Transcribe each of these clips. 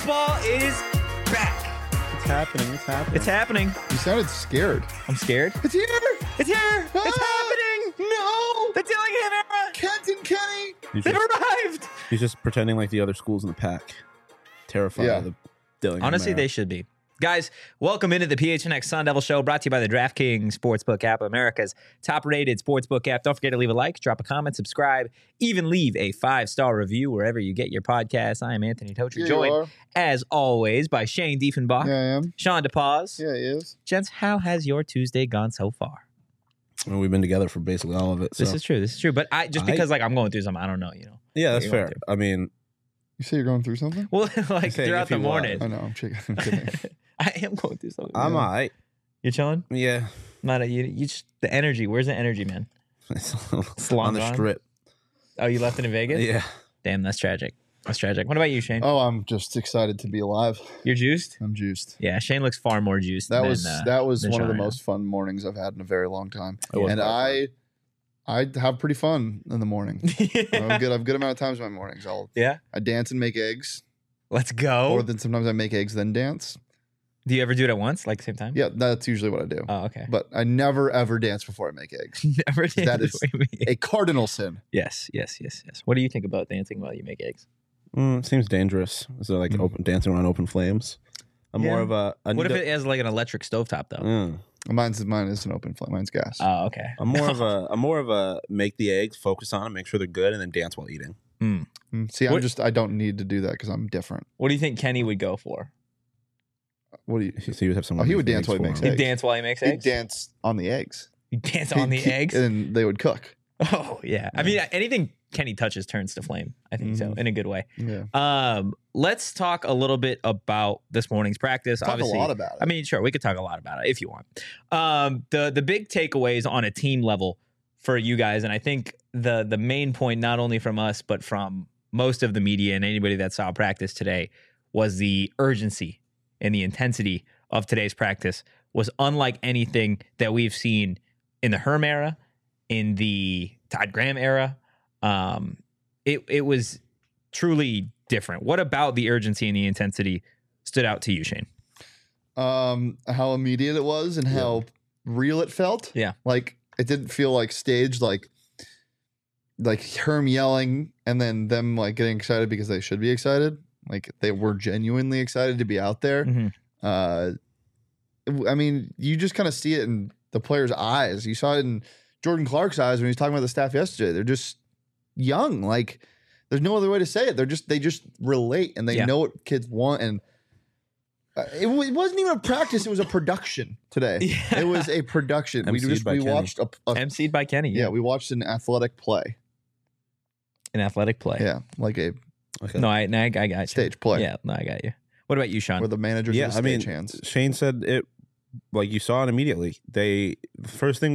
Football is back. It's happening. It's happening. It's happening. You sounded scared. I'm scared. It's here. It's here. It's Ah! happening. No. The Dillingham era. Kent and Kenny. He's They've just, arrived. he's just pretending like the other schools in the pack. Terrified Yeah. of the Dillingham Honestly, era. they should be. Guys, welcome into the PHNX Sun Devil Show, brought to you by the DraftKings Sportsbook app, America's top-rated sportsbook app. Don't forget to leave a like, drop a comment, subscribe, even leave a 5-star review wherever you get your podcasts. I am Anthony Tocher, Here you joined, are. as always, by Shane Diefenbach, Yeah, I am. Sean DePaz. Yeah, he is. Gents, how has your Tuesday gone so far? And we've been together for basically all of it. So. This is true. This is true. But because I'm going through something, I don't know, yeah, that's what you're fair. going I mean, You say you're going through something? Well, like saying throughout if the he morning. was. I know. I'm kidding. I am going through something. I'm Yeah. all right. You chilling? Yeah. Not you just the energy. Where's the energy, man? It's on the gone? strip. Oh, you left it in Vegas? Yeah. Damn, that's tragic. That's tragic. What about you, Shane? Oh, I'm just excited to be alive. You're juiced? I'm juiced. Yeah, Shane looks far more juiced. That than, was than one of the Sean. most fun mornings I've had in a very long time. It was And quite I have pretty fun in the morning. I've got a good amount of times in my mornings. Yeah, I dance and make eggs. let's go. Or then sometimes I make eggs then dance. Do you ever do it at once, like same time? Yeah, that's usually what I do. Oh, okay. But I never ever dance before I make eggs. Never did. That is Wait. a cardinal sin. Yes. What do you think about dancing while you make eggs? Seems dangerous. So like open dancing around open flames. I'm more Yeah. of a. I What need if it has like an electric stovetop though? Mine is an open flame. Mine's gas. Oh, okay. I'm more of a make the eggs, focus on them, make sure they're good, and then dance while eating. See, What- I don't need to do that because I'm different. What do you think Kenny would go for? What do you? So you would have someone. Oh, he make would the dance eggs while he for makes him. He'd eggs. dance while he makes He'd eggs. dance on the eggs. He'd dance on the eggs. And they would cook. Oh yeah. I mean, anything Kenny touches turns to flame. I think so, in a good way. Yeah. Let's talk a little bit about this morning's practice. Talk Obviously, a lot about it. I mean, sure, we could talk a lot about it if you want. The big takeaways on a team level for you guys, and I think the main point, not only from us but from most of the media and anybody that saw practice today, was the urgency and the intensity of today's practice was unlike anything that we've seen in the Herm era, in the Todd Graham era. It was truly different. What about the urgency and the intensity stood out to you, Shane? How immediate it was and how real it felt. Yeah. Like it didn't feel like staged, like Herm yelling and then them like getting excited because they should be excited. Like they were genuinely excited to be out there. Mhm. I mean, you just kind of see it in the players' eyes. You saw it in Jordan Clark's eyes when he was talking about the staff yesterday. They're just young. Like there's no other way to say it. They just relate and they Yeah. know what kids want. And it wasn't even a practice. It was a production today. Yeah. It was a production. MC'd by We Kenny. watched a MC'd by Kenny. yeah, we watched an athletic play. An athletic play. Yeah, like a Okay. No, I got you. stage play. Yeah, no, I got you. What about you, Sean? Where the managers Yeah, are the I mean, stage hands. Shane said it like you saw it immediately. The first thing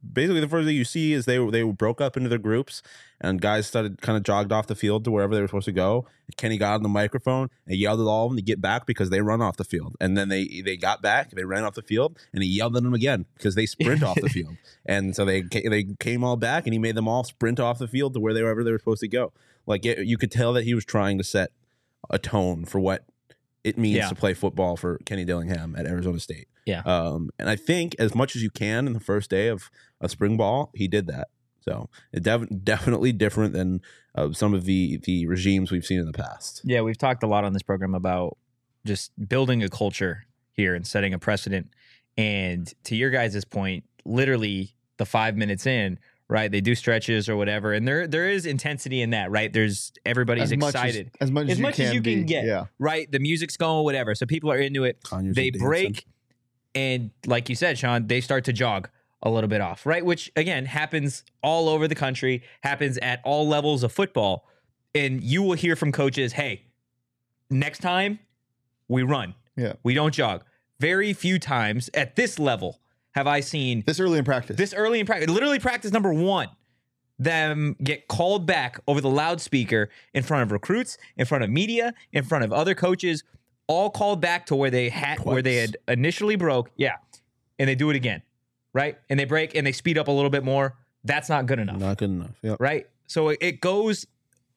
you see is they broke up into their groups and guys started kind of jogged off the field to wherever they were supposed to go. Kenny got on the microphone and yelled at all of them to get back because they run off the field. And then they got back, they ran off the field, and he yelled at them again because they sprint off the field. And so they came all back and he made them all sprint off the field to wherever they were supposed to go. Like you could tell that he was trying to set a tone for what it means to play football for Kenny Dillingham at Arizona State. Yeah. And I think as much as you can in the first day of spring ball, he did that. So it definitely different than some of the regimes we've seen in the past. Yeah, we've talked a lot on this program about just building a culture here and setting a precedent. And to your guys' point, literally the 5 minutes in, right? They do stretches or whatever, and there is intensity in that, right? There's everybody's excited As much as you can can be. get, Yeah. right? The music's going, whatever. So people are into it. Kanye's They dancing. break, and like you said, Sean, they start to jog a little bit off, right? Which again happens all over the country, happens at all levels of football, and you will hear from coaches, "Hey, next time we run, Yeah. we don't jog." Very few times at this level have I seen This early in practice. this early in practice, literally practice number 1, them get called back over the loudspeaker in front of recruits, in front of media, in front of other coaches, all called back to where they had initially broke. Yeah. And they do it again. Right. And they break and they speed up a little bit more. That's not good enough. Not good enough. Yeah. Right. So it goes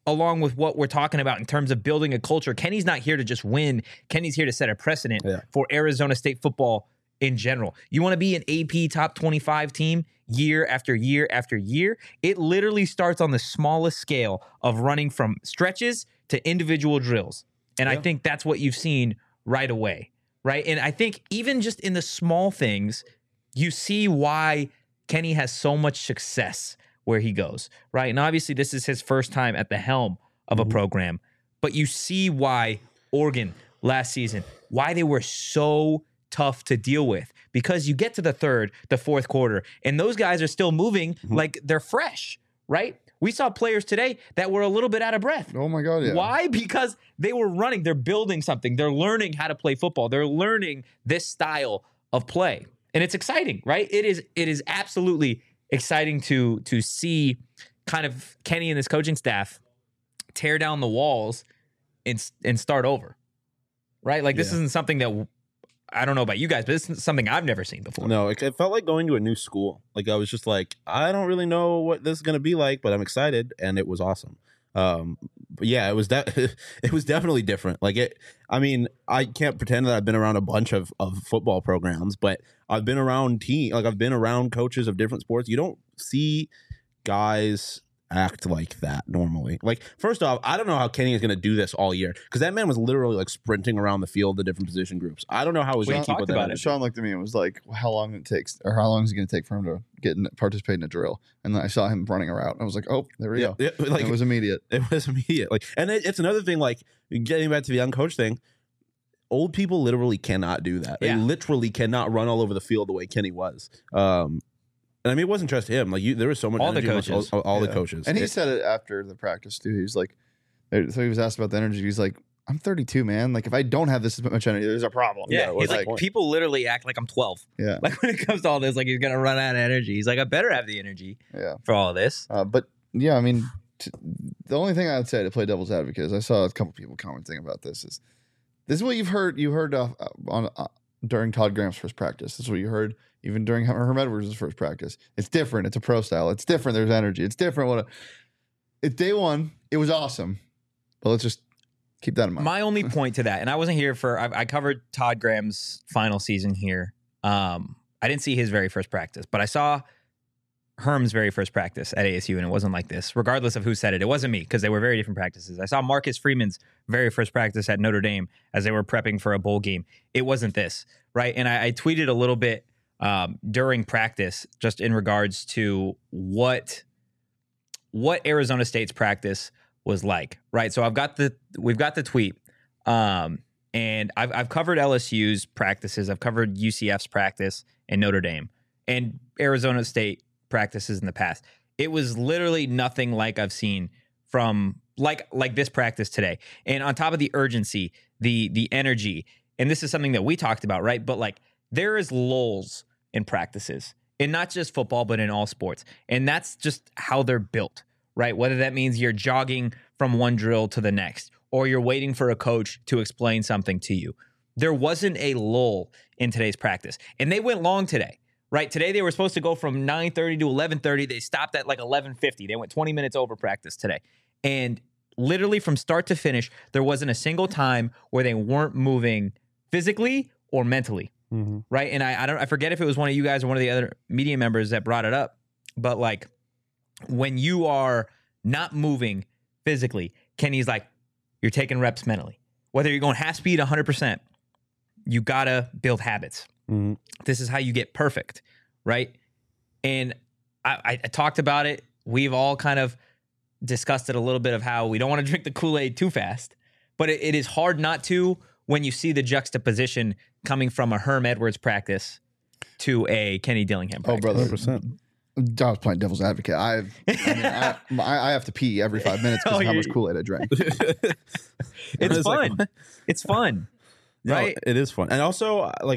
along with what we're talking about in terms of building a culture. Kenny's not here to just win. Kenny's here to set a precedent for Arizona State football in general. You want to be an AP top 25 team year after year after year? It literally starts on the smallest scale of running from stretches to individual drills. And I think that's what you've seen right away, right? And I think even just in the small things, you see why Kenny has so much success where he goes, right? And obviously this is his first time at the helm of a program, but you see why Oregon last season, why they were so tough to deal with, because you get to the fourth quarter, and those guys are still moving like they're fresh, right? We saw players today that were a little bit out of breath. Oh my God, yeah. Why? Because they were running, they're building something, they're learning how to play football, they're learning this style of play. And it's exciting, right? It is absolutely exciting to see kind of Kenny and his coaching staff tear down the walls and start over, right? Like this isn't something that, I don't know about you guys, but this is something I've never seen before. No, it felt like going to a new school. Like I was just like, I don't really know what this is going to be like, but I'm excited, and it was awesome. But yeah, it was it was definitely different. Like I mean, I can't pretend that I've been around a bunch of football programs, but I've been around I've been around coaches of different sports. You don't see guys act like that normally. Like, first off, I don't know how Kenny is going to do this all year, because that man was literally like sprinting around the field, the different position groups. I don't know how he's going to keep with that. Sean looked at me and was like, how long it takes, or how long is it going to take for him to participate in a drill? And then I saw him running around. I was like, oh, there we go. Yeah, like, it was immediate. It was immediate. Like, and it's another thing, like getting back to the young coach thing. Old people literally cannot do that. They literally cannot run all over the field the way Kenny was. And I mean, it wasn't just him. Like, there was so much all energy the coaches, all the coaches, and he said it after the practice too. He was like, so he was asked about the energy. He's like, I'm 32, man. Like, if I don't have this much energy, there's a problem. Yeah, he's like, people literally act like I'm 12. Yeah, like when it comes to all this, like he's gonna run out of energy. He's like, I better have the energy. For all of this. But yeah, I mean, the only thing I would say to play devil's advocate is I saw a couple people commenting about this. This is what you've heard. You heard during Todd Graham's first practice. This is what you heard even during Herm Edwards' first practice. It's different. It's a pro style. It's different. There's energy. It's different. It's day one. It was awesome. But let's just keep that in mind. My only point to that, and I wasn't here I covered Todd Graham's final season here. I didn't see his very first practice, but I saw Herm's very first practice at ASU, and it wasn't like this. Regardless of who said it, it wasn't me, because they were very different practices. I saw Marcus Freeman's very first practice at Notre Dame as they were prepping for a bowl game. It wasn't this, right? And I tweeted a little bit during practice, just in regards to what Arizona State's practice was like, right? So we've got the tweet, and I've covered LSU's practices, I've covered UCF's practice and Notre Dame and Arizona State practices in the past. It was literally nothing like I've seen from like this practice today. And on top of the urgency, the energy, and this is something that we talked about, right? But like, there is lulls in practices, and not just football, but in all sports. And that's just how they're built, right? Whether that means you're jogging from one drill to the next, or you're waiting for a coach to explain something to you. There wasn't a lull in today's practice. And they went long today, right? Today they were supposed to go from 9:30 to 11:30. They stopped at like 11:50. They went 20 minutes over practice today. And literally from start to finish, there wasn't a single time where they weren't moving physically or mentally. Mm-hmm. Right. And I forget if it was one of you guys or one of the other media members that brought it up, but like, when you are not moving physically, Kenny's like, you're taking reps mentally. Whether you're going half speed 100%, you gotta build habits. Mm-hmm. This is how you get perfect, right? And I talked about it. We've all kind of discussed it a little bit of how we don't want to drink the Kool-Aid too fast, but it is hard not to when you see the juxtaposition coming from a Herm Edwards practice to a Kenny Dillingham practice. Oh, brother. 100%. I was playing devil's advocate. I have to pee every 5 minutes because of how much Kool-Aid I drank. It's fun. It's fun. Right? No, it is fun. And also, like,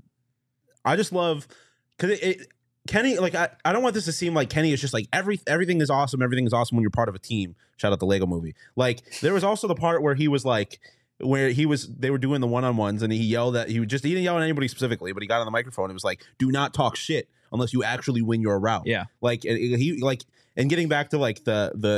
I just love, because Kenny, like, I don't want this to seem like Kenny is just like, everything is awesome. Everything is awesome when you're part of a team. Shout out the Lego Movie. Like, there was also the part where he was like, they were doing the one-on-ones, and he didn't yell at anybody specifically, but he got on the microphone and was like, do not talk shit unless you actually win your route. Yeah. Like, and getting back to like the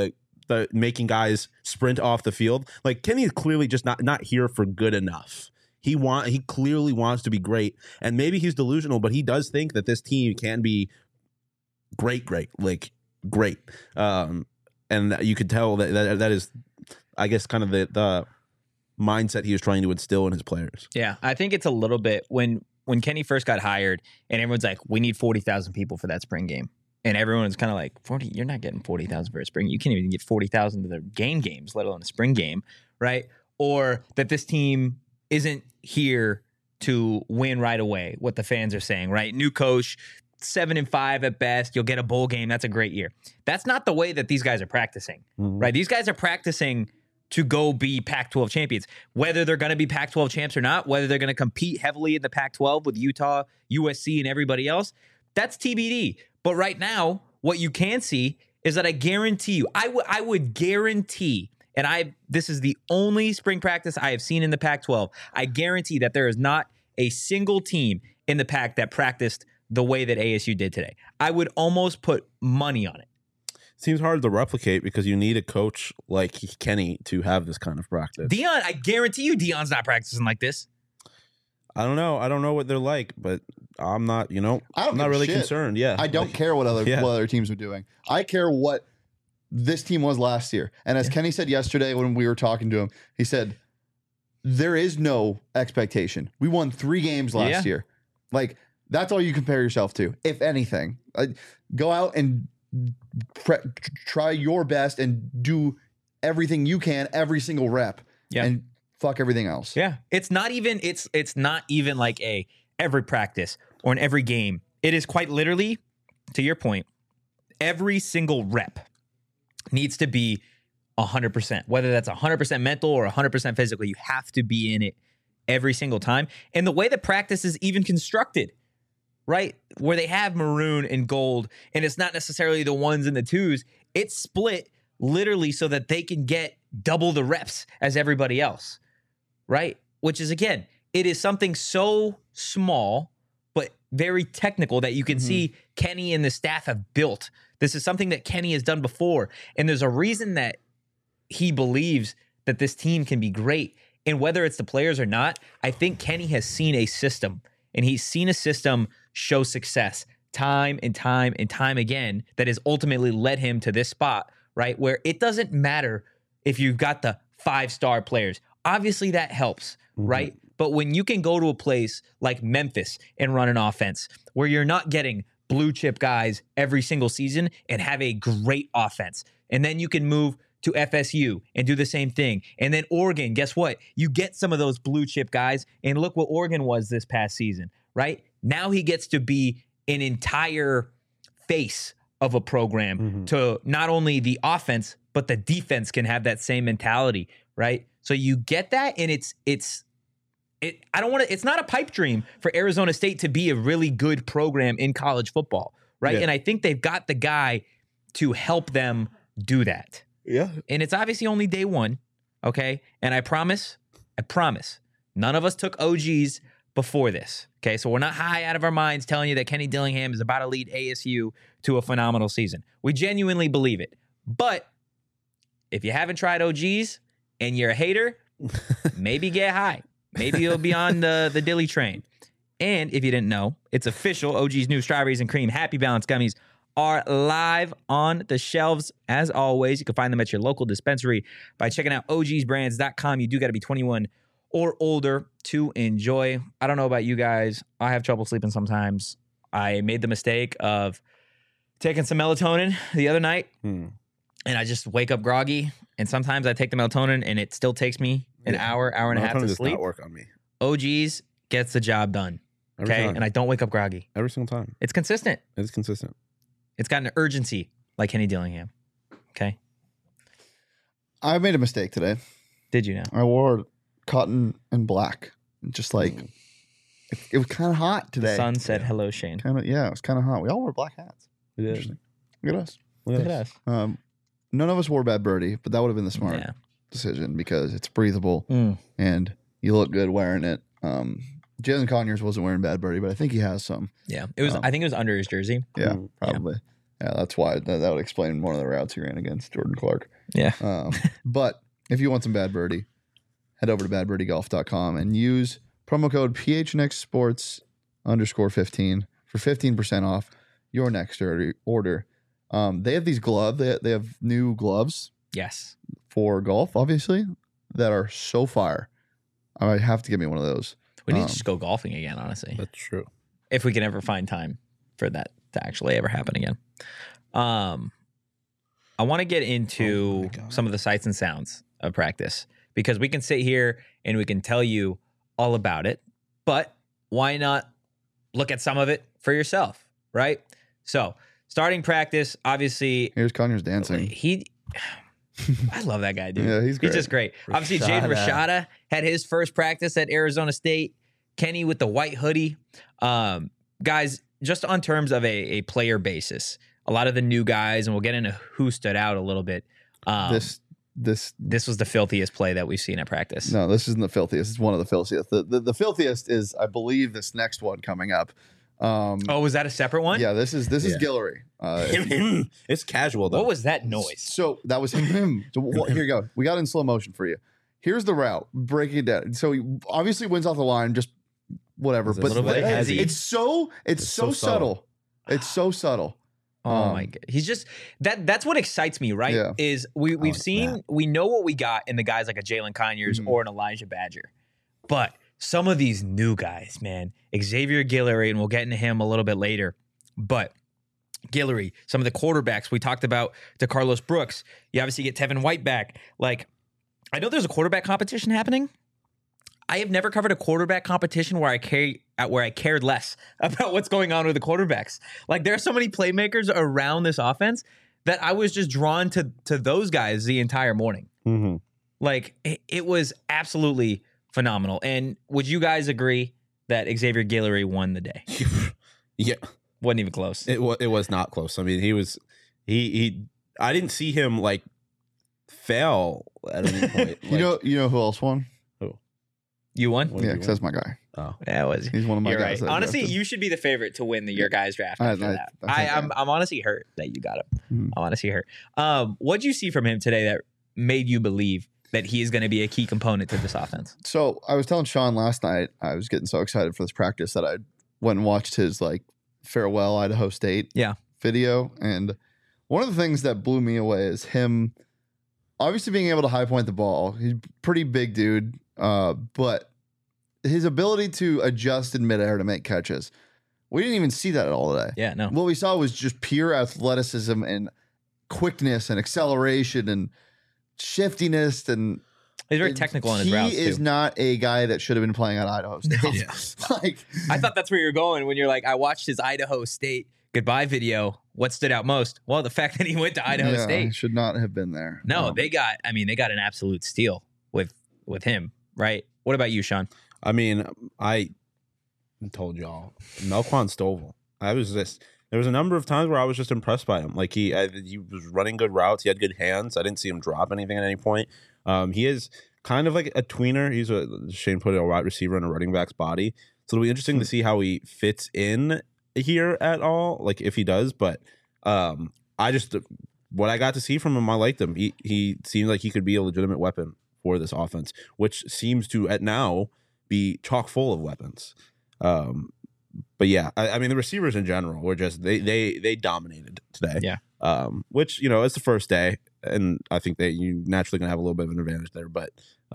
the making guys sprint off the field. Like Kenny is clearly just not here for good enough. He clearly wants to be great, and maybe he's delusional, but he does think that this team can be great, like great. And you could tell that is, I guess, kind of the mindset he was trying to instill in his players. Yeah, I think it's a little bit when Kenny first got hired, and everyone's like, "We need 40,000 people for that spring game," and everyone's kind of like, "40? You're not getting 40,000 for a spring. You can't even get 40,000 to the games, let alone a spring game, right?" Or that this team isn't here to win right away, what the fans are saying, right? New coach, 7-5 at best. You'll get a bowl game. That's a great year. That's not the way that these guys are practicing, right? These guys are practicing to go be Pac-12 champions. Whether they're going to be Pac-12 champs or not, whether they're going to compete heavily in the Pac-12 with Utah, USC, and everybody else, that's TBD. But right now, what you can see is that I guarantee you, I would guarantee, and this is the only spring practice I have seen in the Pac-12. I guarantee that there is not a single team in the Pac that practiced the way that ASU did today. I would almost put money on it. Seems hard to replicate because you need a coach like Kenny to have this kind of practice. Deion, I guarantee you Deion's not practicing like this. I don't know what they're like, but I'm not, I'm not really concerned. Yeah. I don't care what other teams are doing. I care what this team was last year. And as Kenny said yesterday when we were talking to him, he said, there is no expectation. We won 3 games last year. Like, that's all you compare yourself to, if anything. Go out and try your best and do everything you can every single rep. And fuck everything else. Yeah. It's not even like every practice or in every game. It is quite literally, to your point, every single rep needs to be 100%, whether that's 100% mental or 100% physical. You have to be in it every single time. And the way that practice is even constructed, right, where they have maroon and gold, and it's not necessarily the 1s and the 2s, it's split literally so that they can get double the reps as everybody else, right? Which is, again, it is something so small but very technical that you can see Kenny and the staff have built. This is something that Kenny has done before, and there's a reason that he believes that this team can be great. And whether it's the players or not, I think Kenny has seen a system, and he's seen a system show success time and time and time again that has ultimately led him to this spot, right? Where it doesn't matter if you've got the 5-star players. Obviously that helps, right? But when you can go to a place like Memphis and run an offense where you're not getting blue chip guys every single season and have a great offense, and then you can move to FSU and do the same thing. And then Oregon, guess what? You get some of those blue chip guys, and look what Oregon was this past season, right? Now he gets to be an entire face of a program to not only the offense, but the defense can have that same mentality, right? So you get that, and it's not a pipe dream for Arizona State to be a really good program in college football, right? Yeah. And I think they've got the guy to help them do that. Yeah. And it's obviously only day one, okay? And I promise, none of us took OGs before this, okay? So we're not high out of our minds telling you that Kenny Dillingham is about to lead ASU to a phenomenal season. We genuinely believe it. But if you haven't tried OGs and you're a hater, maybe get high. Maybe you'll be on the Dilly train. And if you didn't know, it's official. OG's new strawberries and cream Happy Balance gummies are live on the shelves. As always, you can find them at your local dispensary by checking out ogsbrands.com. You do got to be 21 or older to enjoy. I don't know about you guys. I have trouble sleeping sometimes. I made the mistake of taking some melatonin the other night, and I just wake up groggy. And sometimes I take the melatonin, and it still takes me an hour and a half to sleep. Does not work on me. OGs gets the job done. Okay, and I don't wake up groggy every single time. It's consistent. It's consistent. It's got an urgency like Kenny Dillingham. Okay. I made a mistake today. Did you now? I wore cotton and black. Just like it was kind of hot today. The sun said hello, Shane. It was kind of hot. We all wore black hats. We did. Look at us. Look at us. None of us wore Bad Birdie, but that would have been the smart decision because it's breathable and you look good wearing it. Jalen Conyers wasn't wearing Bad Birdie, but I think he has some. Yeah, it was. I think it was under his jersey. Yeah, probably. Yeah, that's why that would explain one of the routes he ran against Jordan Clark. Yeah. But if you want some Bad Birdie, head over to badbirdiegolf.com and use promo code PHNXSports_15 for 15% off your next order. They have these gloves. They have new gloves Yes. for golf, obviously, that are so fire. I might have to get me one of those. We need to just go golfing again, honestly. That's true. If we can ever find time for that to actually ever happen again. I want to get into some of the sights and sounds of practice because we can sit here and we can tell you all about it, but why not look at some of it for yourself, right? So starting practice, obviously, Here's Conyers dancing. I love that guy, dude. Yeah, he's great. He's just great. Obviously, Jaden Rashada had his first practice at Arizona State. Kenny with the white hoodie. Guys, just on terms of a player basis, a lot of the new guys, and we'll get into who stood out a little bit. This was the filthiest play that we've seen at practice. No, this isn't the filthiest. It's one of the filthiest. The filthiest is, I believe, this next one coming up. Was that a separate one? Yeah, this is Guillory. It's casual though. What was that noise? So that was him. So here you go. We got it in slow motion for you. Here's the route. Breaking it down. So he obviously wins off the line, just whatever. It's a But little bit heavy. it's so subtle. It's so subtle. Oh my god. He's just that's what excites me, right? Yeah. Is we know what we got in the guys like a Jalen Conyers or an Elijah Badger. But some of these new guys, man, Xavier Guillory, and we'll get into him a little bit later. But Guillory, some of the quarterbacks we talked about, to Carlos Brooks. You obviously get Tevin White back. Like, I know there's a quarterback competition happening. I have never covered a quarterback competition where I cared less about what's going on with the quarterbacks. Like, there are so many playmakers around this offense that I was just drawn to those guys the entire morning. Mm-hmm. Like, it was absolutely phenomenal. And would you guys agree that Xavier Guillory won the day? Yeah. Wasn't even close. It was not close. I mean, I didn't see him like fail at any point. You know who else won? You won? What Yeah, did because you that's my guy. Oh. That was. He's one of my You're guys. right. that I Honestly, drafted. you should be the favorite to win your guys' draft after that. I I'm honestly hurt that you got him. Mhm. I'm honestly hurt. What'd you see from him today that made you believe that he is going to be a key component to this offense? So I was telling Sean last night, I was getting so excited for this practice that I went and watched his farewell Idaho State video. And one of the things that blew me away is him obviously being able to high point the ball. He's a pretty big dude, but his ability to adjust in midair to make catches. We didn't even see that at all today. Yeah, no. What we saw was just pure athleticism and quickness and acceleration and shiftiness, and He's very technical on his routes, He is too. not a guy that should have been playing at Idaho State. Yes. I thought that's where you're going when you're like, I watched his Idaho State goodbye video. What stood out most? Well, the fact that he went to Idaho He State. should not have been there. No, they got an absolute steal with him, right? What about you, Sean? I mean, I told y'all, Melquan Stovall. There was a number of times where I was just impressed by him. Like he was running good routes. He had good hands. I didn't see him drop anything at any point. He is kind of like a tweener. He's Shane put a wide receiver in a running back's body. So it'll be interesting to see how he fits in here at all, like if he does. But what I got to see from him, I liked him. He seemed like he could be a legitimate weapon for this offense, which seems to at now be chock full of weapons. But yeah, I mean the receivers in general were just they dominated today. Yeah. Which it's the first day, and I think that you naturally gonna have a little bit of an advantage there. But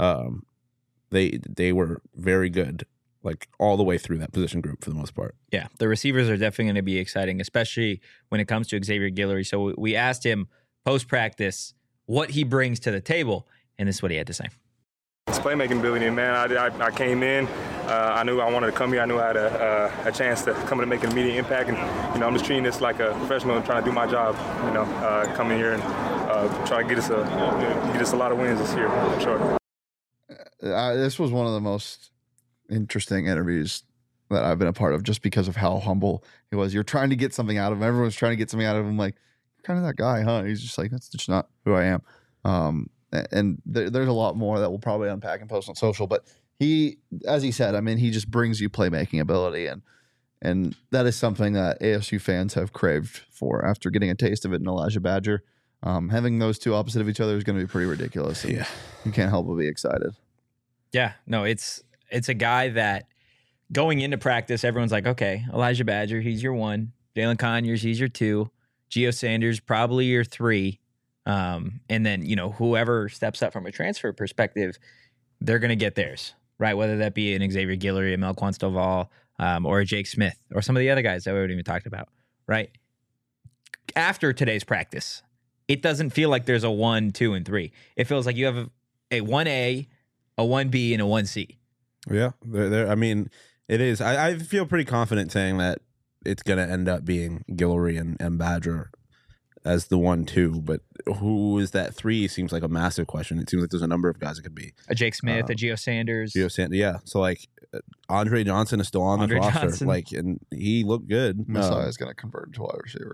they were very good, like all the way through that position group for the most part. Yeah, the receivers are definitely going to be exciting, especially when it comes to Xavier Guillory. So we asked him post practice what he brings to the table, and this is what he had to say. It's playmaking ability, man. I came in. I knew I wanted to come here. I knew I had a chance to come in and make an immediate impact. And I'm just treating this like a professional and trying to do my job. Coming here and try to get us a lot of wins this year, for sure. This was one of the most interesting interviews that I've been a part of, just because of how humble he was. You're trying to get something out of him. Everyone's trying to get something out of him. Like, you're kind of that guy, huh? He's just like, that's just not who I am. And there's a lot more that we'll probably unpack and post on social. But he, as he said, I mean, he just brings you playmaking ability. And And that is something that ASU fans have craved for after getting a taste of it in Elijah Badger. Having those two opposite of each other is going to be pretty ridiculous. And you can't help but be excited. Yeah, no, it's a guy that going into practice, everyone's like, okay, Elijah Badger, he's your 1. Jalen Conyers, he's your 2. Gio Sanders, probably your 3. And then, whoever steps up from a transfer perspective, they're going to get theirs, right? Whether that be an Xavier Guillory, a Melquan Stovall, or a Jake Smith, or some of the other guys that we haven't even talked about, right? After today's practice, it doesn't feel like there's a 1, 2, and 3. It feels like you have a 1A, a 1B, and a 1C. Yeah, I mean, it is. I feel pretty confident saying that it's going to end up being Guillory and Badger as the 1, 2, but who is that 3 seems like a massive question. It seems like there's a number of guys it could be. A Jake Smith, a Gio Sanders. Yeah. So like Andre Johnson is still on the roster. Johnson. Like, and he looked good. Messiah is going to convert to wide receiver.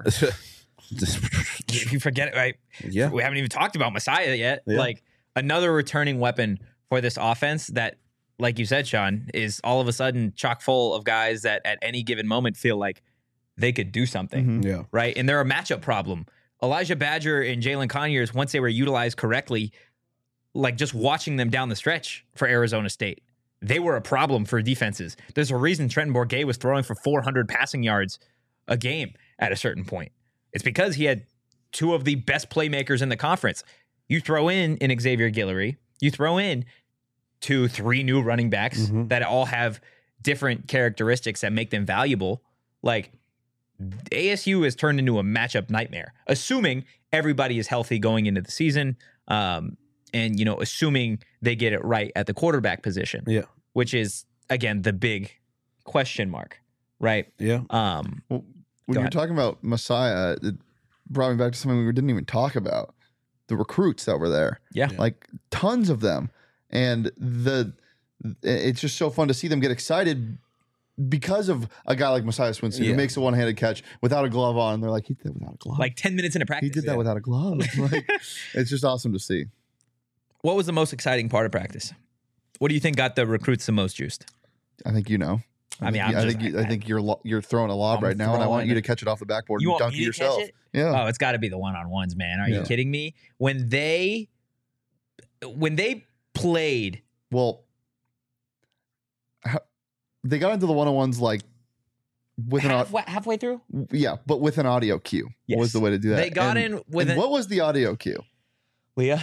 You forget it, right? Yeah. We haven't even talked about Messiah yet. Yeah. Like another returning weapon for this offense that, like you said, Sean, is all of a sudden chock full of guys that at any given moment feel like they could do something. Yeah. Right. And they're a matchup problem. Elijah Badger and Jalen Conyers, once they were utilized correctly, like just watching them down the stretch for Arizona State, they were a problem for defenses. There's a reason Trenton Bourguet was throwing for 400 passing yards a game at a certain point. It's because he had 2 of the best playmakers in the conference. You throw in an Xavier Guillory, you throw in 2, 3 new running backs that all have different characteristics that make them valuable. Like, ASU has turned into a matchup nightmare, assuming everybody is healthy going into the season, and assuming they get it right at the quarterback position. Yeah, which is again the big question mark, right? Yeah. Well, when you're talking about Messiah, it brought me back to something we didn't even talk about: the recruits that were there. Yeah, like tons of them, and it's just so fun to see them get excited. Because of a guy like Messiah Swinson who makes a one-handed catch without a glove on, and they're like, he did that without a glove. Like 10 minutes into practice. He did that without a glove. Like, it's just awesome to see. What was the most exciting part of practice? What do you think got the recruits the most juiced? I think you know. I think you're throwing a lob right now, and I want you to catch it off the backboard and dunk it yourself. Yeah. Oh, it's got to be the one-on-ones, man. Are you kidding me? When they played, well. They got into the one-on-ones like with halfway through. Yeah, but with an audio cue was the way to do that. They got in with what was the audio cue? Leah.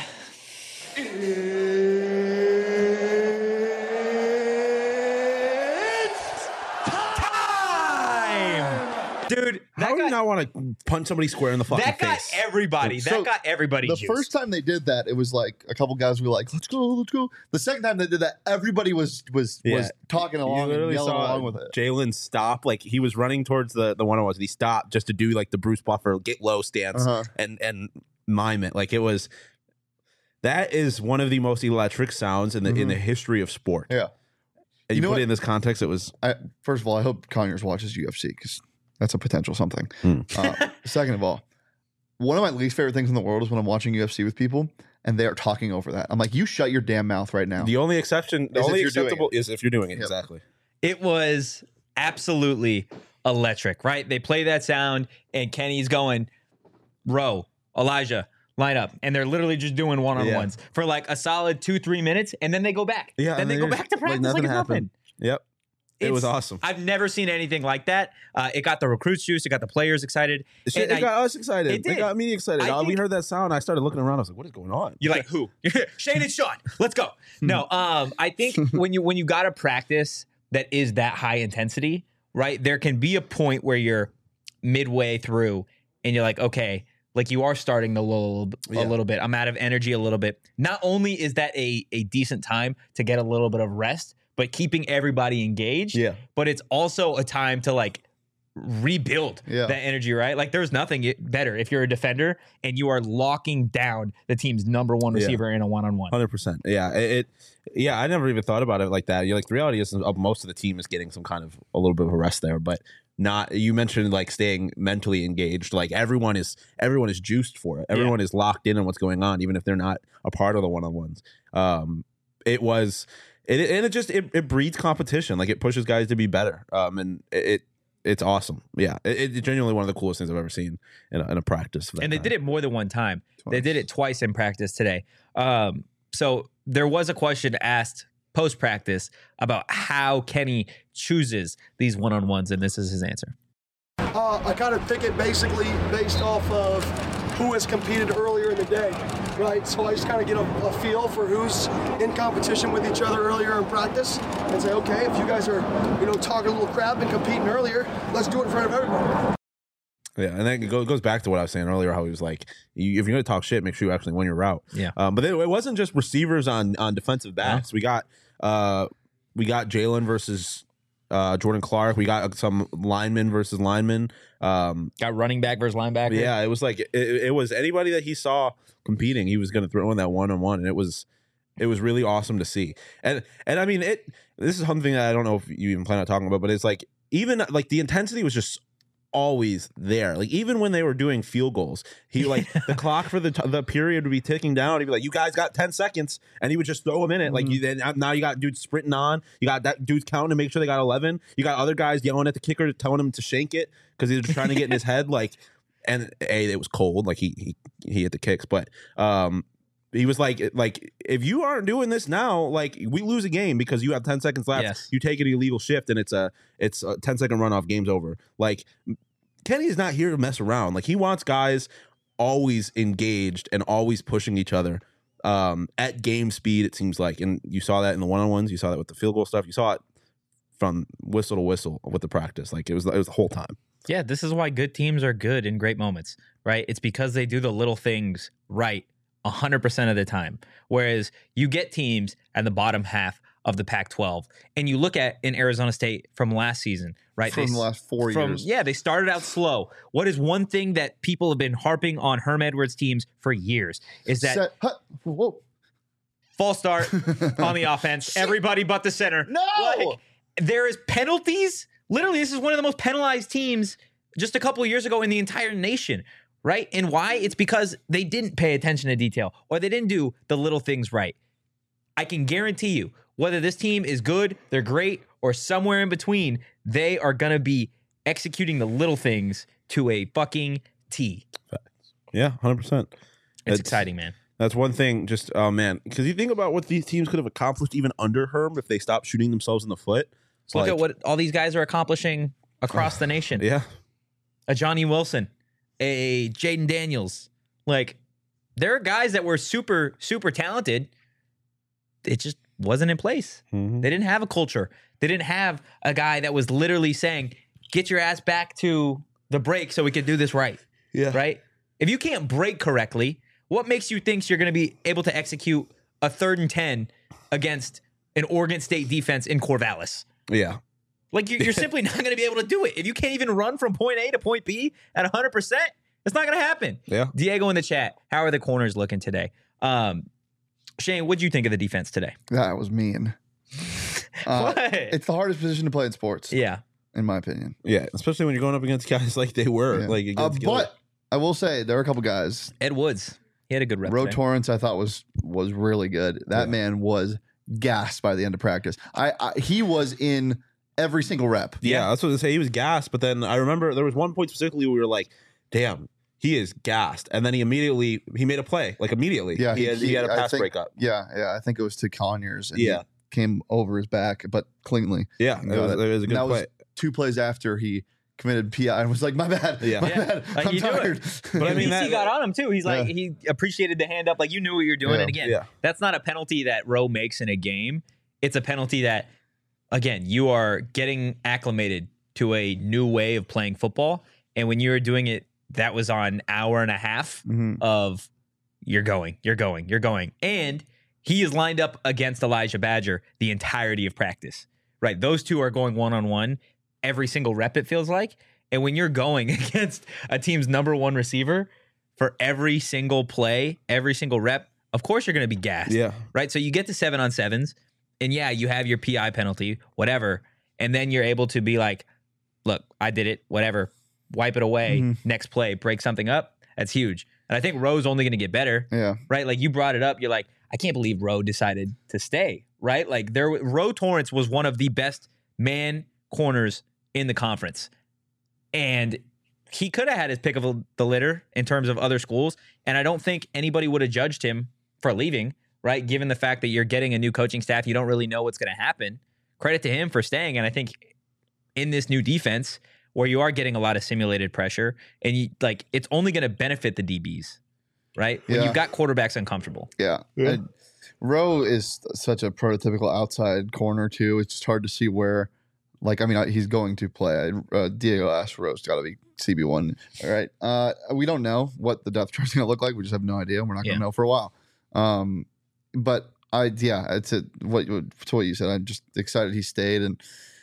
Dude, how do you not want to punch somebody square in the fucking face? That got everybody. The juiced. first time they did that, it was like a couple guys were like, "Let's go." The second time they did that, everybody was talking along and yelling along with it. Jalen stopped, like he was running towards the one-on-ones. He stopped just to do like the Bruce Buffer get low stance and mime it. Like it was. That is one of the most electric sounds in the history of sport. Yeah, and you put it in this context, it was. First of all, I hope Conyers watches UFC because. That's a potential something. Second of all, one of my least favorite things in the world is when I'm watching UFC with people and they are talking over that. I'm like, you shut your damn mouth right now. The only acceptable is if you're doing it. Yep. Exactly. It was absolutely electric, right? They play that sound and Kenny's going, row, Elijah, line up. And they're literally just doing one-on-ones for like a solid 2-3 minutes. And then they go back. Yeah. Then they go back to practice like it's nothing. Yep. It was awesome. I've never seen anything like that. It got the recruits juiced. It got the players excited. It got us excited. It did. It got me excited. We heard that sound. I started looking around. I was like, what is going on? You're like, who? Shane and Sean. Let's go. No, I think when you got a practice that is that high intensity, right, there can be a point where you're midway through and you're like, okay, like you are starting to lull a little bit. I'm out of energy a little bit. Not only is that a decent time to get a little bit of rest, but keeping everybody engaged. Yeah. But it's also a time to like rebuild that energy, right? Like there's nothing better if you're a defender and you are locking down the team's number one receiver in a one-on-one. 100%. Yeah. I never even thought about it like that. You're like, the reality is most of the team is getting some kind of a little bit of a rest there, but not, you mentioned like staying mentally engaged. Like everyone is juiced for it. Everyone is locked in on what's going on, even if they're not a part of the one-on-ones. It breeds competition. Like it pushes guys to be better. And it's awesome. Yeah, it's genuinely one of the coolest things I've ever seen in a practice. And they did it more than one time. They did it twice in practice today. So there was a question asked post-practice about how Kenny chooses these one-on-ones, and this is his answer. I kind of think it basically based off of who has competed earlier in the day, right? So I just kind of get a feel for who's in competition with each other earlier in practice and say, okay, if you guys are, talking a little crap and competing earlier, let's do it in front of everybody. Yeah, and then it goes back to what I was saying earlier, how he was like, if you're going to talk shit, make sure you actually win your route. Yeah. But it wasn't just receivers on defensive backs. Yeah. We got Jalen versus Jordan Clark. We got some linemen versus linemen. Got running back versus linebacker. Yeah, it was like it was anybody that he saw competing, he was going to throw in that one-on-one, and it was really awesome to see. And I mean, this is something that I don't know if you even plan on talking about, but it's like even like the intensity was just always there. Like even when they were doing field goals, he like the clock for the period would be ticking down. He'd be like, "You guys got 10 seconds," and he would just throw them in it. Like now you got dudes sprinting on. You got that dudes counting to make sure they got 11. You got other guys yelling at the kicker, telling him to shank it because he was trying to get in his head. Like, and it was cold. Like he hit the kicks, but he was like if you aren't doing this now, like we lose a game because you have 10 seconds left. Yes. You take an illegal shift and it's a 10-second runoff. Game's over. Like Kenny is not here to mess around. Like he wants guys always engaged and always pushing each other at game speed. It seems like, and you saw that in the one-on-ones. You saw that with the field goal stuff. You saw it from whistle to whistle with the practice. Like it was the whole time. Yeah, this is why good teams are good in great moments, right? It's because they do the little things right 100% of the time. Whereas you get teams at the bottom half of the Pac-12, and you look at in Arizona State from last season, right? From the last 4 years. Yeah, they started out slow. What is one thing that people have been harping on Herm Edwards teams for years is that false start on the offense. Everybody but the center. No! Like, there is penalties. Literally, this is one of the most penalized teams just a couple of years ago in the entire nation. Right? And why? It's because they didn't pay attention to detail or they didn't do the little things right. I can guarantee you, whether this team is good, they're great, or somewhere in between, they are going to be executing the little things to a fucking T. Yeah, 100%. It's exciting, man. That's one thing. Just, oh, man. Because you think about what these teams could have accomplished even under Herm if they stopped shooting themselves in the foot. Look at what all these guys are accomplishing across the nation. Yeah. A Johnny Wilson. A Jaden Daniels. Like, there are guys that were super, super talented. It just wasn't in place. Mm-hmm. They didn't have a culture. They didn't have a guy that was literally saying, get your ass back to the break so we can do this right. Yeah. Right? If you can't break correctly, what makes you think you're going to be able to execute a 3rd and 10 against an Oregon State defense in Corvallis? Yeah. Like, you're simply not going to be able to do it. If you can't even run from point A to point B at 100%, it's not going to happen. Yeah. Diego in the chat, how are the corners looking today? Shane, what'd you think of the defense today? That was mean. What? It's the hardest position to play in sports. Yeah. In my opinion. Yeah, especially when you're going up against guys like they were. Yeah. Like, but I will say there are a couple guys. Ed Woods, he had a good rep. Ro today. Torrance, I thought was really good. That man was gassed by the end of practice. He was in every single rep. Yeah, that's what I say. He was gassed, but then I remember there was one point specifically where we were like, damn, he is gassed. And then he made a play, like immediately. Yeah, he had a pass breakup. Yeah, I think it was to Conyers. And Yeah. he came over his back, but cleanly. Yeah, it was a good play. Was 2 plays after he committed PI and was like, my bad. Yeah. My bad. Like, I'm you do tired. But I mean, that- he got on him too. He's like, Yeah. he appreciated the hand up, like you knew what you were doing. Yeah. And again, Yeah. that's not a penalty that Rowe makes in a game. It's a penalty that, again, you are getting acclimated to a new way of playing football. And when you were doing it, that was on hour and a half of you're going. And he is lined up against Elijah Badger the entirety of practice, right? Those two are going one-on-one every single rep, it feels like. And when you're going against a team's number 1 receiver for every single play, every single rep, of course you're going to be gassed. Yeah. Right? So you get to 7-on-7s, and yeah, you have your PI penalty, whatever. And then you're able to be like, look, I did it, whatever. Wipe it away. Next play, break something up. That's huge. And I think Rowe's only going to get better. Yeah. Right? Like, you brought it up. You're like, I can't believe Rowe decided to stay. Right? Like, Rowe Torrance was one of the best man corners in the conference. And he could have had his pick of the litter in terms of other schools. And I don't think anybody would have judged him for leaving, right? Given the fact that you're getting a new coaching staff, you don't really know what's going to happen. Credit to him for staying. And I think in this new defense, where you are getting a lot of simulated pressure, and it's only going to benefit the DBs, right? When you've got quarterbacks uncomfortable. Yeah. Rowe is such a prototypical outside corner too. It's just hard to see where, he's going to play. Diego asked Rowe's got to be CB1. All right. We don't know what the depth chart is going to look like. We just have no idea. We're not going to know for a while. But it's what you said. I'm just excited he stayed, and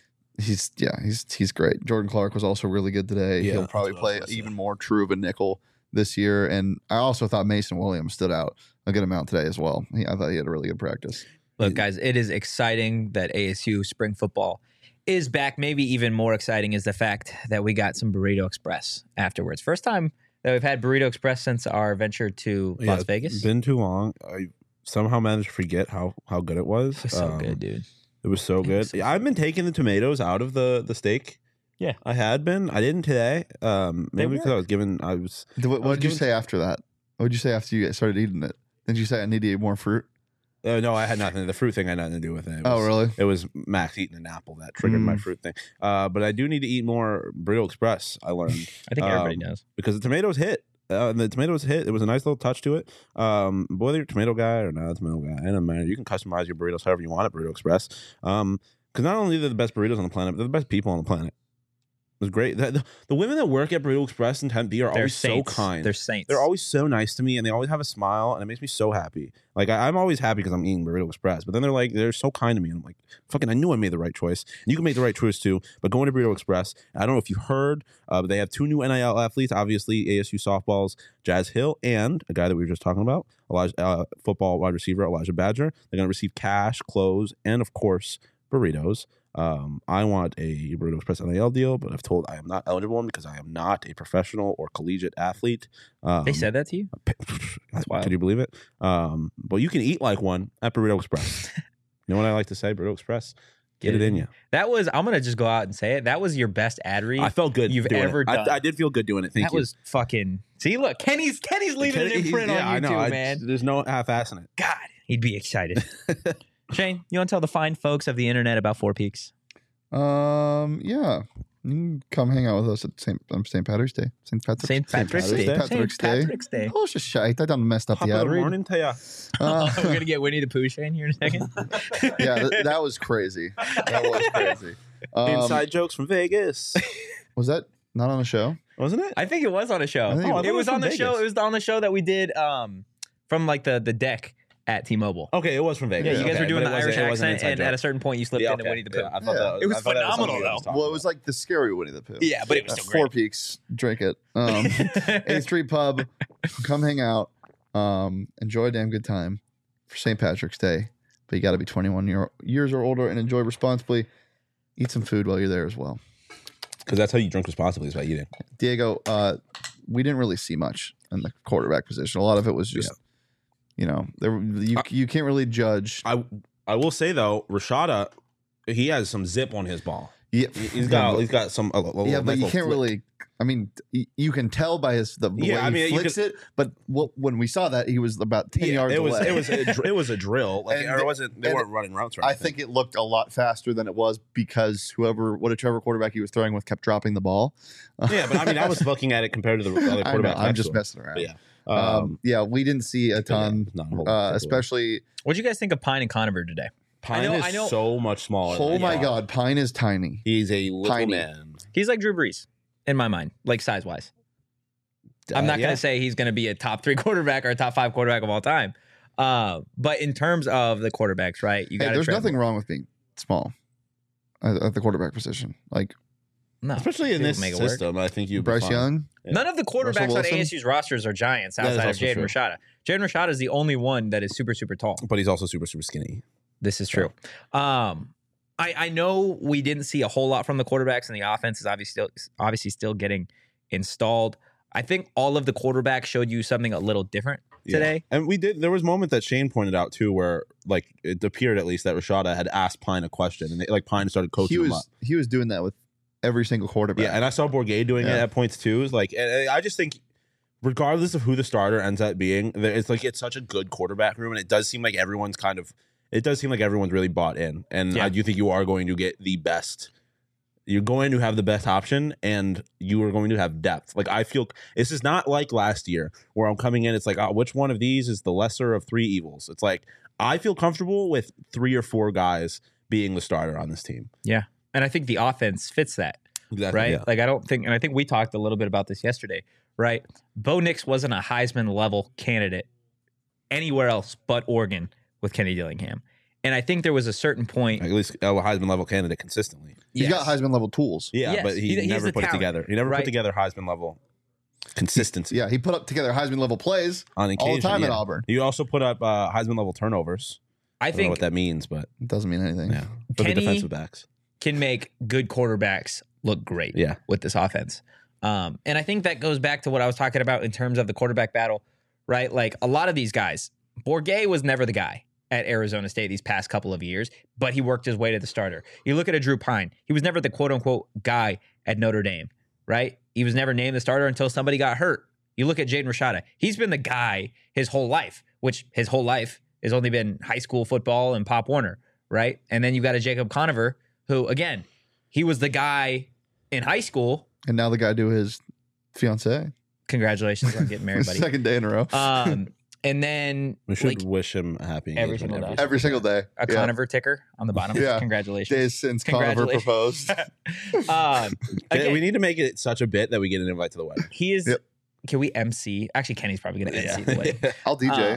he's great. Jordan Clark was also really good today. Yeah, he'll probably play even more true of a nickel this year. And I also thought Mason Williams stood out a good amount today as well. I thought he had a really good practice. Look, guys, it is exciting that ASU spring football is back. Maybe even more exciting is the fact that we got some Burrito Express afterwards. First time that we've had Burrito Express since our venture to Las Vegas. It's been too long. I somehow managed to forget how good it was. It was so good, dude. It was so good. I've been taking the tomatoes out of the steak. Yeah, I had been. I didn't today. Maybe because What did you say after that? What did you say after you started eating it? Did you say I need to eat more fruit? No, I had nothing. The fruit thing had nothing to do with it. Really? It was Max eating an apple that triggered my fruit thing. But I do need to eat more Burrito Express, I learned. I think everybody does. Because the tomatoes hit. It was a nice little touch to it. Whether you're a tomato guy or not a tomato guy, it doesn't matter. You can customize your burritos however you want at Burrito Express. Because not only are they the best burritos on the planet, but they're the best people on the planet. It was great. The women that work at Burrito Express in Tempe are always so kind. They're saints. They're always so nice to me, and they always have a smile, and it makes me so happy. I'm always happy because I'm eating Burrito Express, but then they're so kind to me, and I'm like, fucking, I knew I made the right choice. And you can make the right choice too, but going to Burrito Express, I don't know if you heard, but they have 2 new NIL athletes, obviously ASU softballs, Jazz Hill, and a guy that we were just talking about, football wide receiver Elijah Badger. They're going to receive cash, clothes, and of course, burritos. I want a Burrito Express NIL deal, but I've told I am not eligible one because I am not a professional or collegiate athlete. They said that to you? That's wild. Can you believe it? But you can eat like one at Burrito Express. You know what I like to say? Burrito Express, get it in you. That was, I'm going to just go out and say it. That was your best ad read. I felt good you've ever done. I did feel good doing it. Thank you. That was fucking, see, look, Kenny's leaving an imprint on you I know, too, man. There's no half-assing it. God, he'd be excited. Shane, you want to tell the fine folks of the internet about Four Peaks? Yeah. You can come hang out with us at St. Patrick's Day. St. Patrick's Day. Oh, it's just shite. I done messed up the ad read. Morning to ya. We're going to get Winnie the Pooh Shane here in a second. Yeah, that was crazy. That was crazy. Inside jokes from Vegas. Was that not on a show? Wasn't it? I think it was on a show. It was on the Vegas. show. It was on the show that we did from like the deck at T-Mobile. Okay, it was from Vegas. Yeah, you guys were doing the But Irish it wasn't accent, and joke. at a certain point, you slipped into Winnie the Pooh. I thought It was I thought that phenomenal, something I was though. talking Well, it was like the scary Winnie the Pooh. Yeah, but it was still Four great. Peaks, drink it. 8th Street Pub, come hang out. Enjoy a damn good time for St. Patrick's Day. But you got to be 21 years or older and enjoy responsibly. Eat some food while you're there as well. Because that's how you drink responsibly, is by eating. Diego, we didn't really see much in the quarterback position. A lot of it was just, you can't really judge. I will say though, Rashada, he has some zip on his ball. Yeah, he's got some. but you can't really. I mean, you can tell by the way he flicks it. But when we saw that, he was about 10 yards away. It was a drill. Like they weren't running routes. Right. I think it looked a lot faster than it was because whatever quarterback he was throwing with kept dropping the ball. Yeah, but I mean, I was looking at it compared to the other quarterback. I'm just messing around. But yeah, we didn't see a ton, especially. What do you guys think of Pine and Conover today? Pine is so much smaller. Oh my God, Pine is tiny. He's a little man. He's like Drew Brees in my mind, like size wise. I'm not going to say he's going to be a top 3 quarterback or a top 5 quarterback of all time. But in terms of the quarterbacks, right? There's nothing wrong with being small at the quarterback position. Like, no, especially in this system, I think you Bryce Young. Yeah. None of the quarterbacks on ASU's rosters are giants outside of Jaden Rashada. Jaden Rashada is the only one that is super, super tall. But he's also super, super skinny. This is true. I know we didn't see a whole lot from the quarterbacks, and the offense is obviously still getting installed. I think all of the quarterbacks showed you something a little different today. And there was a moment that Shane pointed out too, where like it appeared at least that Rashada had asked Pine a question, and Pine started coaching him up. He was doing that with every single quarterback. Yeah, and I saw Bourguet doing it Yeah. at points too. Like, and I just think, regardless of who the starter ends up being, it's such a good quarterback room, and it does seem like everyone's really bought in. And Yeah. I do think you are going to get the best. You're going to have the best option, and you are going to have depth. Like, I feel this is not like last year where I'm coming in. It's like, oh, which one of these is the lesser of three evils? It's like I feel comfortable with 3 or 4 guys being the starter on this team. Yeah. And I think the offense fits that, Exactly. right? Yeah. Like, I don't think, and I think we talked a little bit about this yesterday, right? Bo Nix wasn't a Heisman level candidate anywhere else but Oregon with Kenny Dillingham. And I think there was a certain point. At least a Heisman level candidate consistently. He's got Heisman level tools. Yeah, Yes, but he he's never the put it talent, together. He never right? put together Heisman level consistency. Yeah, he put up together Heisman level plays On all occasion, the time at yeah. Auburn. You also put up Heisman level turnovers. I I don't know think what that means, but It doesn't mean anything. yeah, for the Kenny- defensive backs. can make good quarterbacks look great Yeah. with this offense. And I think that goes back to what I was talking about in terms of the quarterback battle, right? Like a lot of these guys, Bourguet was never the guy at Arizona State these past couple of years, but he worked his way to the starter. You look at a Drew Pine, he was never the quote unquote guy at Notre Dame, right? He was never named the starter until somebody got hurt. You look at Jaden Rashada, he's been the guy his whole life, which his whole life has only been high school football and Pop Warner, right? And then you got a Jacob Conover, who again, he was the guy in high school. And now the guy do his fiance. Congratulations on getting married, buddy. Second day in a row. And then We should like wish him a happy every engagement single day. Every single day. a Yeah. Conover ticker on the bottom. Yeah. Congratulations. Days since Conover Congratulations. proposed. Again, We need to make it such a bit that we get an invite to the wedding. he is. Yep. Can we MC? Actually, Kenny's probably going to MC the wedding. I'll DJ.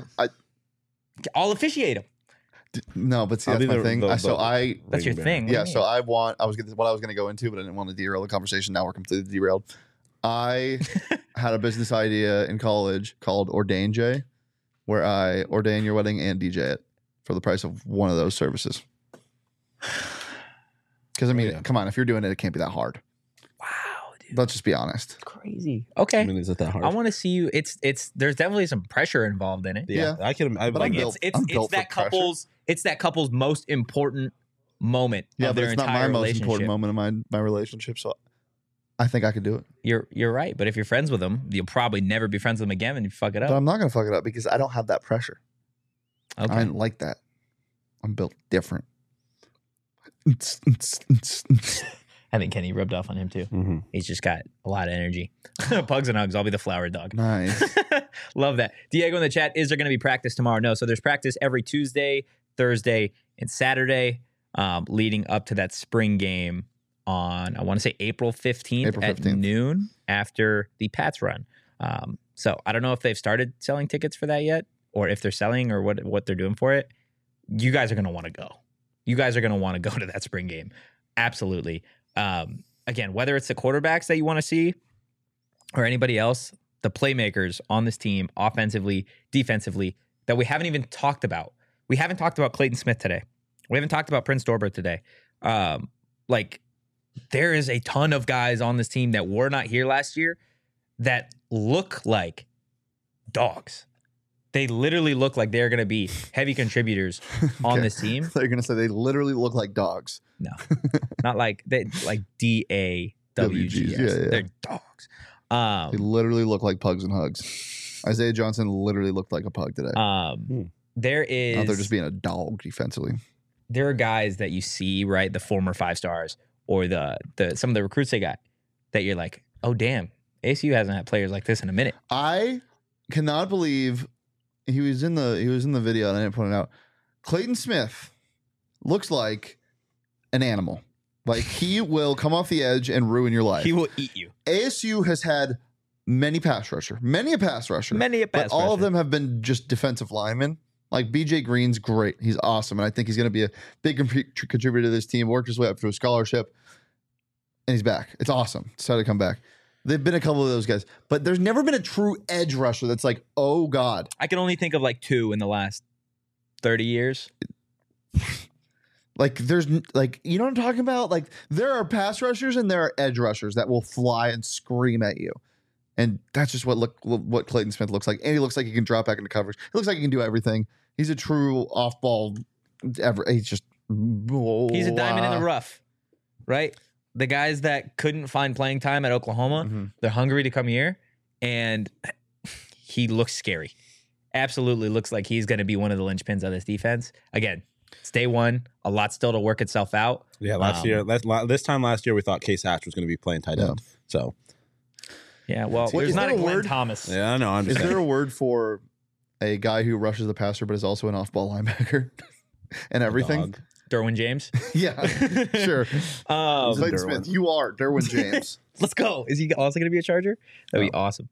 I'll officiate him. No, but see, I'll that's be my thing. the- So I That's your ring thing. bearer. What do yeah, you so mean? I was what I was going to go into, but I didn't want to derail the conversation. Now we're completely derailed. I had a business idea in college called Ordain J, where I ordain your wedding and DJ it for the price of one of those services. Because I mean, yeah. come on, if you're doing it, it can't be that hard. Wow, dude, Let's just be honest. crazy. Okay, I mean, is it that hard? I want to see you. It's. There's definitely some pressure involved in it. yeah, I can. But like I'm it. built- It's I'm built for that pressure. couple's. It's that couple's most important moment Yeah, of but their it's not entire my most relationship. important moment in my relationship. So I think I could do it. You're right, but if you're friends with them, you'll probably never be friends with them again, and you fuck it But up. I'm not going to fuck it up because I don't have that pressure. Okay. I ain't like that. I'm built different. I think Kenny rubbed off on him too. Mhm. He's just got a lot of energy. Pugs and hugs. I'll be the flower dog. Nice. Love that. Diego in the chat, is there going to be practice tomorrow? No. So there's practice every Tuesday, Thursday, and Saturday leading up to that spring game on, I want to say April 15th, April at 15th. noon after the Pats run. So I don't know if they've started selling tickets for that yet or if they're selling or what they're doing for it. You guys are going to want to go. You guys are going to want to go to that spring game. Absolutely. Again, whether it's the quarterbacks that you want to see or anybody else, the playmakers on this team, offensively, defensively, that we haven't even talked about. We haven't talked about Clayton Smith today. We haven't talked about Prince Dorbert today. Like, there is a ton of guys on this team that were not here last year that look like dogs. They literally look like they're going to be heavy contributors on Okay. this team. They're going to say they literally look like dogs. No, not like they like DAWGS. WGs, yeah. They're dogs. They literally look like pugs and hugs. Isaiah Johnson literally looked like a pug today. There is. Out there just being a dog defensively. There are guys that you see, right? The former 5 stars or the some of the recruits they got that you're like, oh damn, ASU hasn't had players like this in a minute. I cannot believe he was in the video and I didn't point it out. Clayton Smith looks like an animal. Like he will come off the edge and ruin your life. He will eat you. ASU has had many a pass rusher. Many a But pass all of rusher. them have been just defensive linemen. Like BJ Green's great. He's awesome. And I think he's going to be a big contributor to this team. Worked his way up through a scholarship. And he's back. It's awesome. Decided to come back. They've been a couple of those guys. But there's never been a true edge rusher that's like, oh God. I can only think of like 2 in the last 30 years. Like there's like, you know what I'm talking about? Like there are pass rushers and there are edge rushers that will fly and scream at you. And that's just what Clayton Smith looks like. And he looks like he can drop back into coverage. He looks like he can do everything. He's a true off-ball. He's just. He's a diamond in the rough, right? the guys that couldn't find playing time at Oklahoma, they're hungry to come here, and he looks scary. Absolutely looks like he's going to be one of the linchpins of this defense. Again, it's day one. A lot still to work itself out. Yeah, this time last year, we thought Case Hatch was going to be playing tight end. So, yeah, well, Wait, there's is not there a a Glenn word? Thomas. yeah, I know. I'm Is just there a word for a guy who rushes the passer but is also an off-ball linebacker and everything? dog. Derwin James. Yeah, sure. Clayton Derwin. Smith, you are Derwin James. Let's go. Is he also going to be a Charger? That'd be awesome.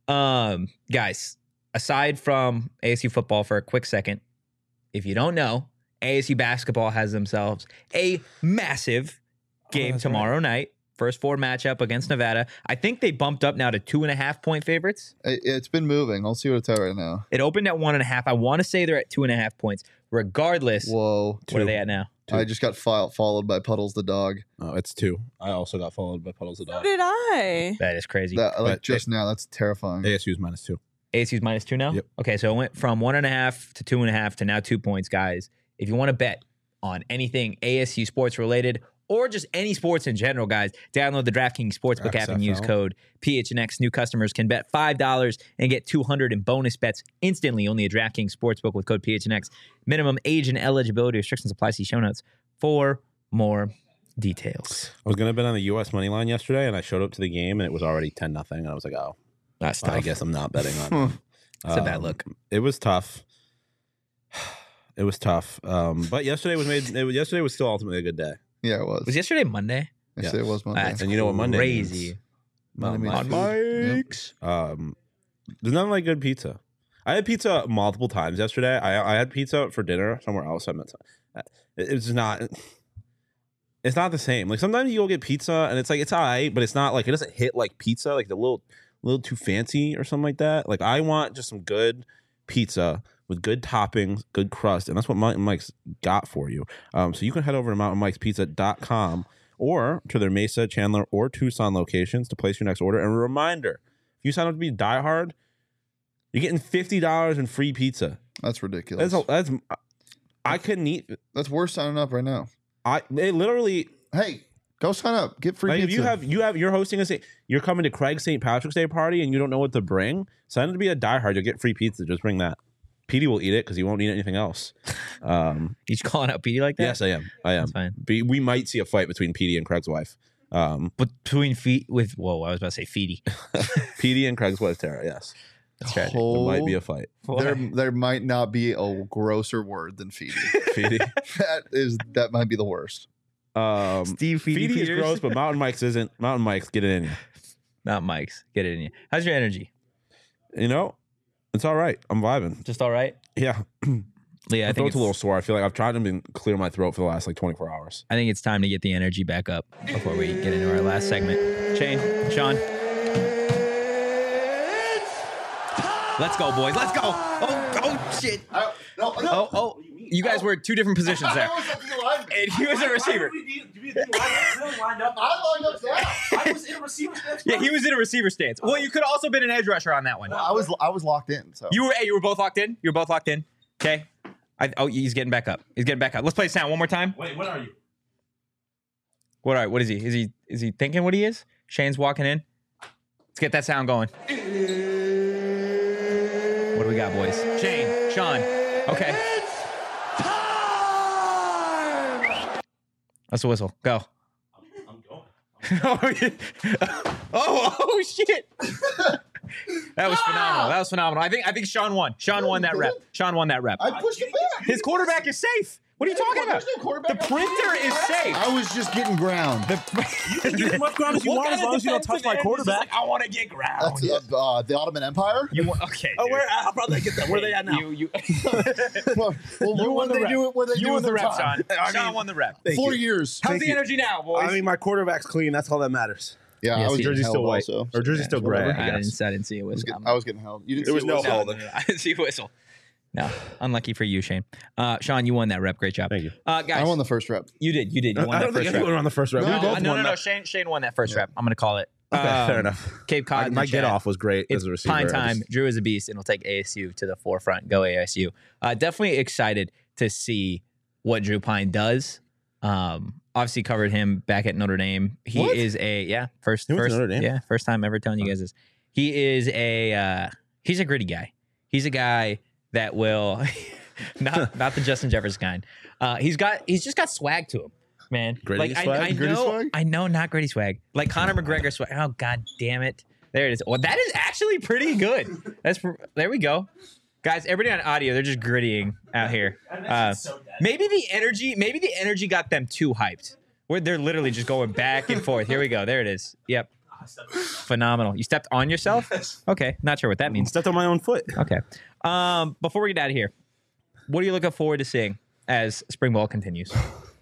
Guys, aside from ASU football for a quick second, if you don't know, ASU basketball has themselves a massive game tomorrow night. First four matchup against Nevada. I think they bumped up now to 2.5 point favorites. It's been moving. I'll see what it's at right now. It opened at 1.5. I want to say they're at 2.5 points. Regardless, Whoa. what are they at now? I just got followed by Puddles the dog. Oh, it's 2. I also got followed by Puddles the So dog. did I. That is crazy. Like But just now, that's terrifying. ASU's -2. ASU's -2 now? Yep. Okay, so it went from 1.5 to 2.5 to now 2 points, guys. If you want to bet on anything ASU sports related or just any sports in general, guys, download the DraftKings Sportsbook app and use XFL. code PHNX. New customers can bet $5 and get $200 in bonus bets instantly only at DraftKings Sportsbook with code PHNX. Minimum age and eligibility restrictions apply. See show notes for more details. I was going to bet on the U.S. money line yesterday, and I showed up to the game, and it was already 10-0, and I was like, oh, That's tough. I guess I'm not betting on it. It's a bad look. It was tough. It was tough. But yesterday was still ultimately a good day. Yeah, it was. Was yesterday Monday? Yes, it was Monday. That's And you know what Monday crazy. means? Monday means Mountain food. Mike's. There's nothing like good pizza. I had pizza multiple times yesterday. I had pizza for dinner somewhere else. It's not. It's not the same. Like sometimes you go get pizza and it's like it's all right, but it's not like it doesn't hit like pizza, like the little too fancy or something like that. Like I want just some good pizza with good toppings, good crust, and that's what Mountain Mike's got for you. So you can head over to mountainmikespizza.com or to their Mesa, Chandler, or Tucson locations to place your next order. And a reminder, if you sign up to be diehard, you're getting $50 in free pizza. That's ridiculous. I couldn't eat. That's worth signing up right now. They literally. Hey, go sign up. Get free Like pizza. if you're hosting you're coming to Craig's St. Patrick's Day party and you don't know what to bring, sign up to be a diehard. You'll get free pizza. Just bring that. Petey will eat it because he won't eat anything else. You just calling out Petey like that? Yes, I am. That's fine. We might see a fight between Petey and Craig's wife. Between feet with I was about to say Feety. Petey and Craig's wife Tara. Yes, That's tragic. there might be a fight. There might not be a grosser word than feedy. Petey. that might be the worst. Steve Feety Petey is Peters. gross, but Mountain Mike's isn't. Mountain Mike's, get it in you. Not Mike's. Get it in you. How's your energy? You know, it's all right. I'm vibing. Just all right? Yeah. Yeah, My throat's a little sore. I feel like I've tried to clear my throat for the last 24 hours. I think it's time to get the energy back up before we get into our last segment. Sean. Let's go, boys. Let's go. Oh shit. Oh, you guys were two different positions there. And he was a receiver. I lined up down. I was in a receiver stance. Yeah, he was in a receiver stance. Well, you could also been an edge rusher on that one. I was locked in. So You were both locked in? You were both locked in? Okay. He's getting back up. Let's play the sound one more time. Wait, what are you? What is he? Is he thinking what he is? Shane's walking in. Let's get that sound going. What do we got, boys? Shane, Sean. Okay. That's the whistle. Go. I'm going. Oh shit. That was phenomenal. I think Sean won. Sean won that rep. I pushed it back. His quarterback is safe. What are you talking about? There's no quarterback The on printer is safe. I was just getting ground. You can get as much ground as you want as long as you don't touch my quarterback. I want to get ground. That's the Ottoman Empire. Okay. Oh, dude. I'll probably get that. Where are they at now? You Well, won what the they rep. do? What they do won with the their rep, time? Sean. Sean won the rep. 4 years. How's Thank the you. energy now, boys? I mean, my quarterback's clean. That's all that matters. Yeah, Yes, I was he- getting Jersey's held still white. also. Or jersey's still gray. I didn't see a whistle. I was getting held. You didn't There see was a no whistle? holding. I didn't see a whistle. No, unlucky for you, Shane. Sean, you won that rep. Great job. Thank you. Guys. I won the first rep. You did. You won I that don't think first anyone rep. on the first rep. No, We both No, won that. Shane won that first rep. I'm going to call it. Fair enough. Cape Cod. in the My chat. get off was great It's as a receiver. Pine I time. just- Drew is a beast, and we'll take ASU to the forefront. Go ASU. Definitely excited to see what Drew Pine does. obviously covered him back at Notre Dame. He What? is a first He went to Notre Dame? first time ever telling you guys this. He is he's a gritty guy. He's a guy that will not the Justin Jefferson kind. He's just got swag to him, man. Gritty like swag? Gritty swag? I know, not gritty swag. Like Conor McGregor swag. Oh god damn it! There it is. Well, that is actually pretty good. There we go, guys. Everybody on audio, they're just grittying out here. Maybe the energy got them too hyped. Where they're literally just going back and forth. Here we go. There it is. Yep. Phenomenal. You stepped on yourself? Okay. Not sure what that means. Stepped on my own foot. Okay. Before we get out of here, what are you looking forward to seeing as spring ball continues?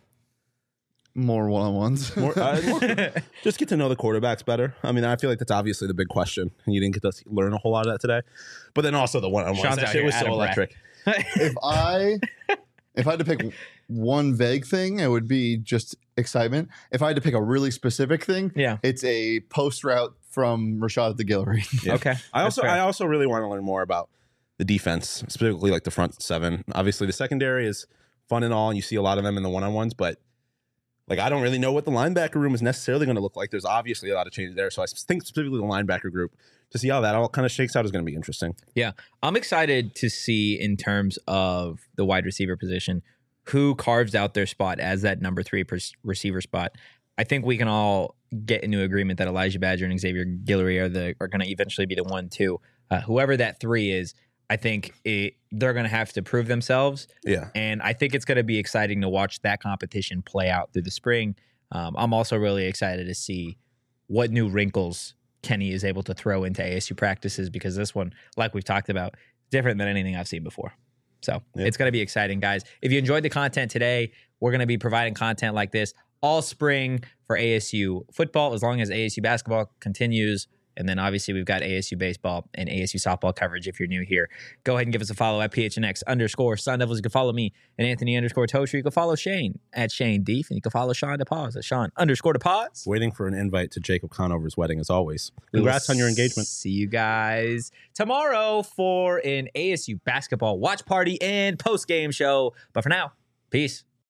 More one-on-ones. Just get to know the quarterbacks better. I mean, I feel like that's obviously the big question. And you didn't get to learn a whole lot of that today. But then also the one-on-ones. Sean's That out shit here was out so of breath. electric. if I had to pick one vague thing, it would be just excitement. If I had to pick a really specific thing, Yeah. it's a post route from Rashad the Guillory. Yeah. Okay. I That's also fair. really want to learn more about the defense, specifically like the front seven. Obviously, the secondary is fun and all, and you see a lot of them in the one-on-ones, but like I don't really know what the linebacker room is necessarily going to look like. There's obviously a lot of changes there, so I think specifically the linebacker group to see how that all kind of shakes out is going to be interesting. Yeah. I'm excited to see in terms of the wide receiver position who carves out their spot as that number 3 receiver spot. I think we can all get into agreement that Elijah Badger and Xavier Guillory are going to eventually be the 1-2. Whoever that 3 is, I think they're going to have to prove themselves. Yeah. And I think it's going to be exciting to watch that competition play out through the spring. I'm also really excited to see what new wrinkles Kenny is able to throw into ASU practices, because this one, like we've talked about, different than anything I've seen before. So It's going to be exciting, guys. If you enjoyed the content today, we're going to be providing content like this all spring for ASU football, as long as ASU basketball continues. And then obviously we've got ASU baseball and ASU softball coverage if you're new here. Go ahead and give us a follow at PHNX_Sun Devils. You can follow me at Anthony_Tosher. You can follow Shane at Shane Deef. And you can follow Sean DePaz at Sean_DePaz. Waiting for an invite to Jacob Conover's wedding as always. Congrats on your engagement. See you guys tomorrow for an ASU basketball watch party and post-game show. But for now, peace.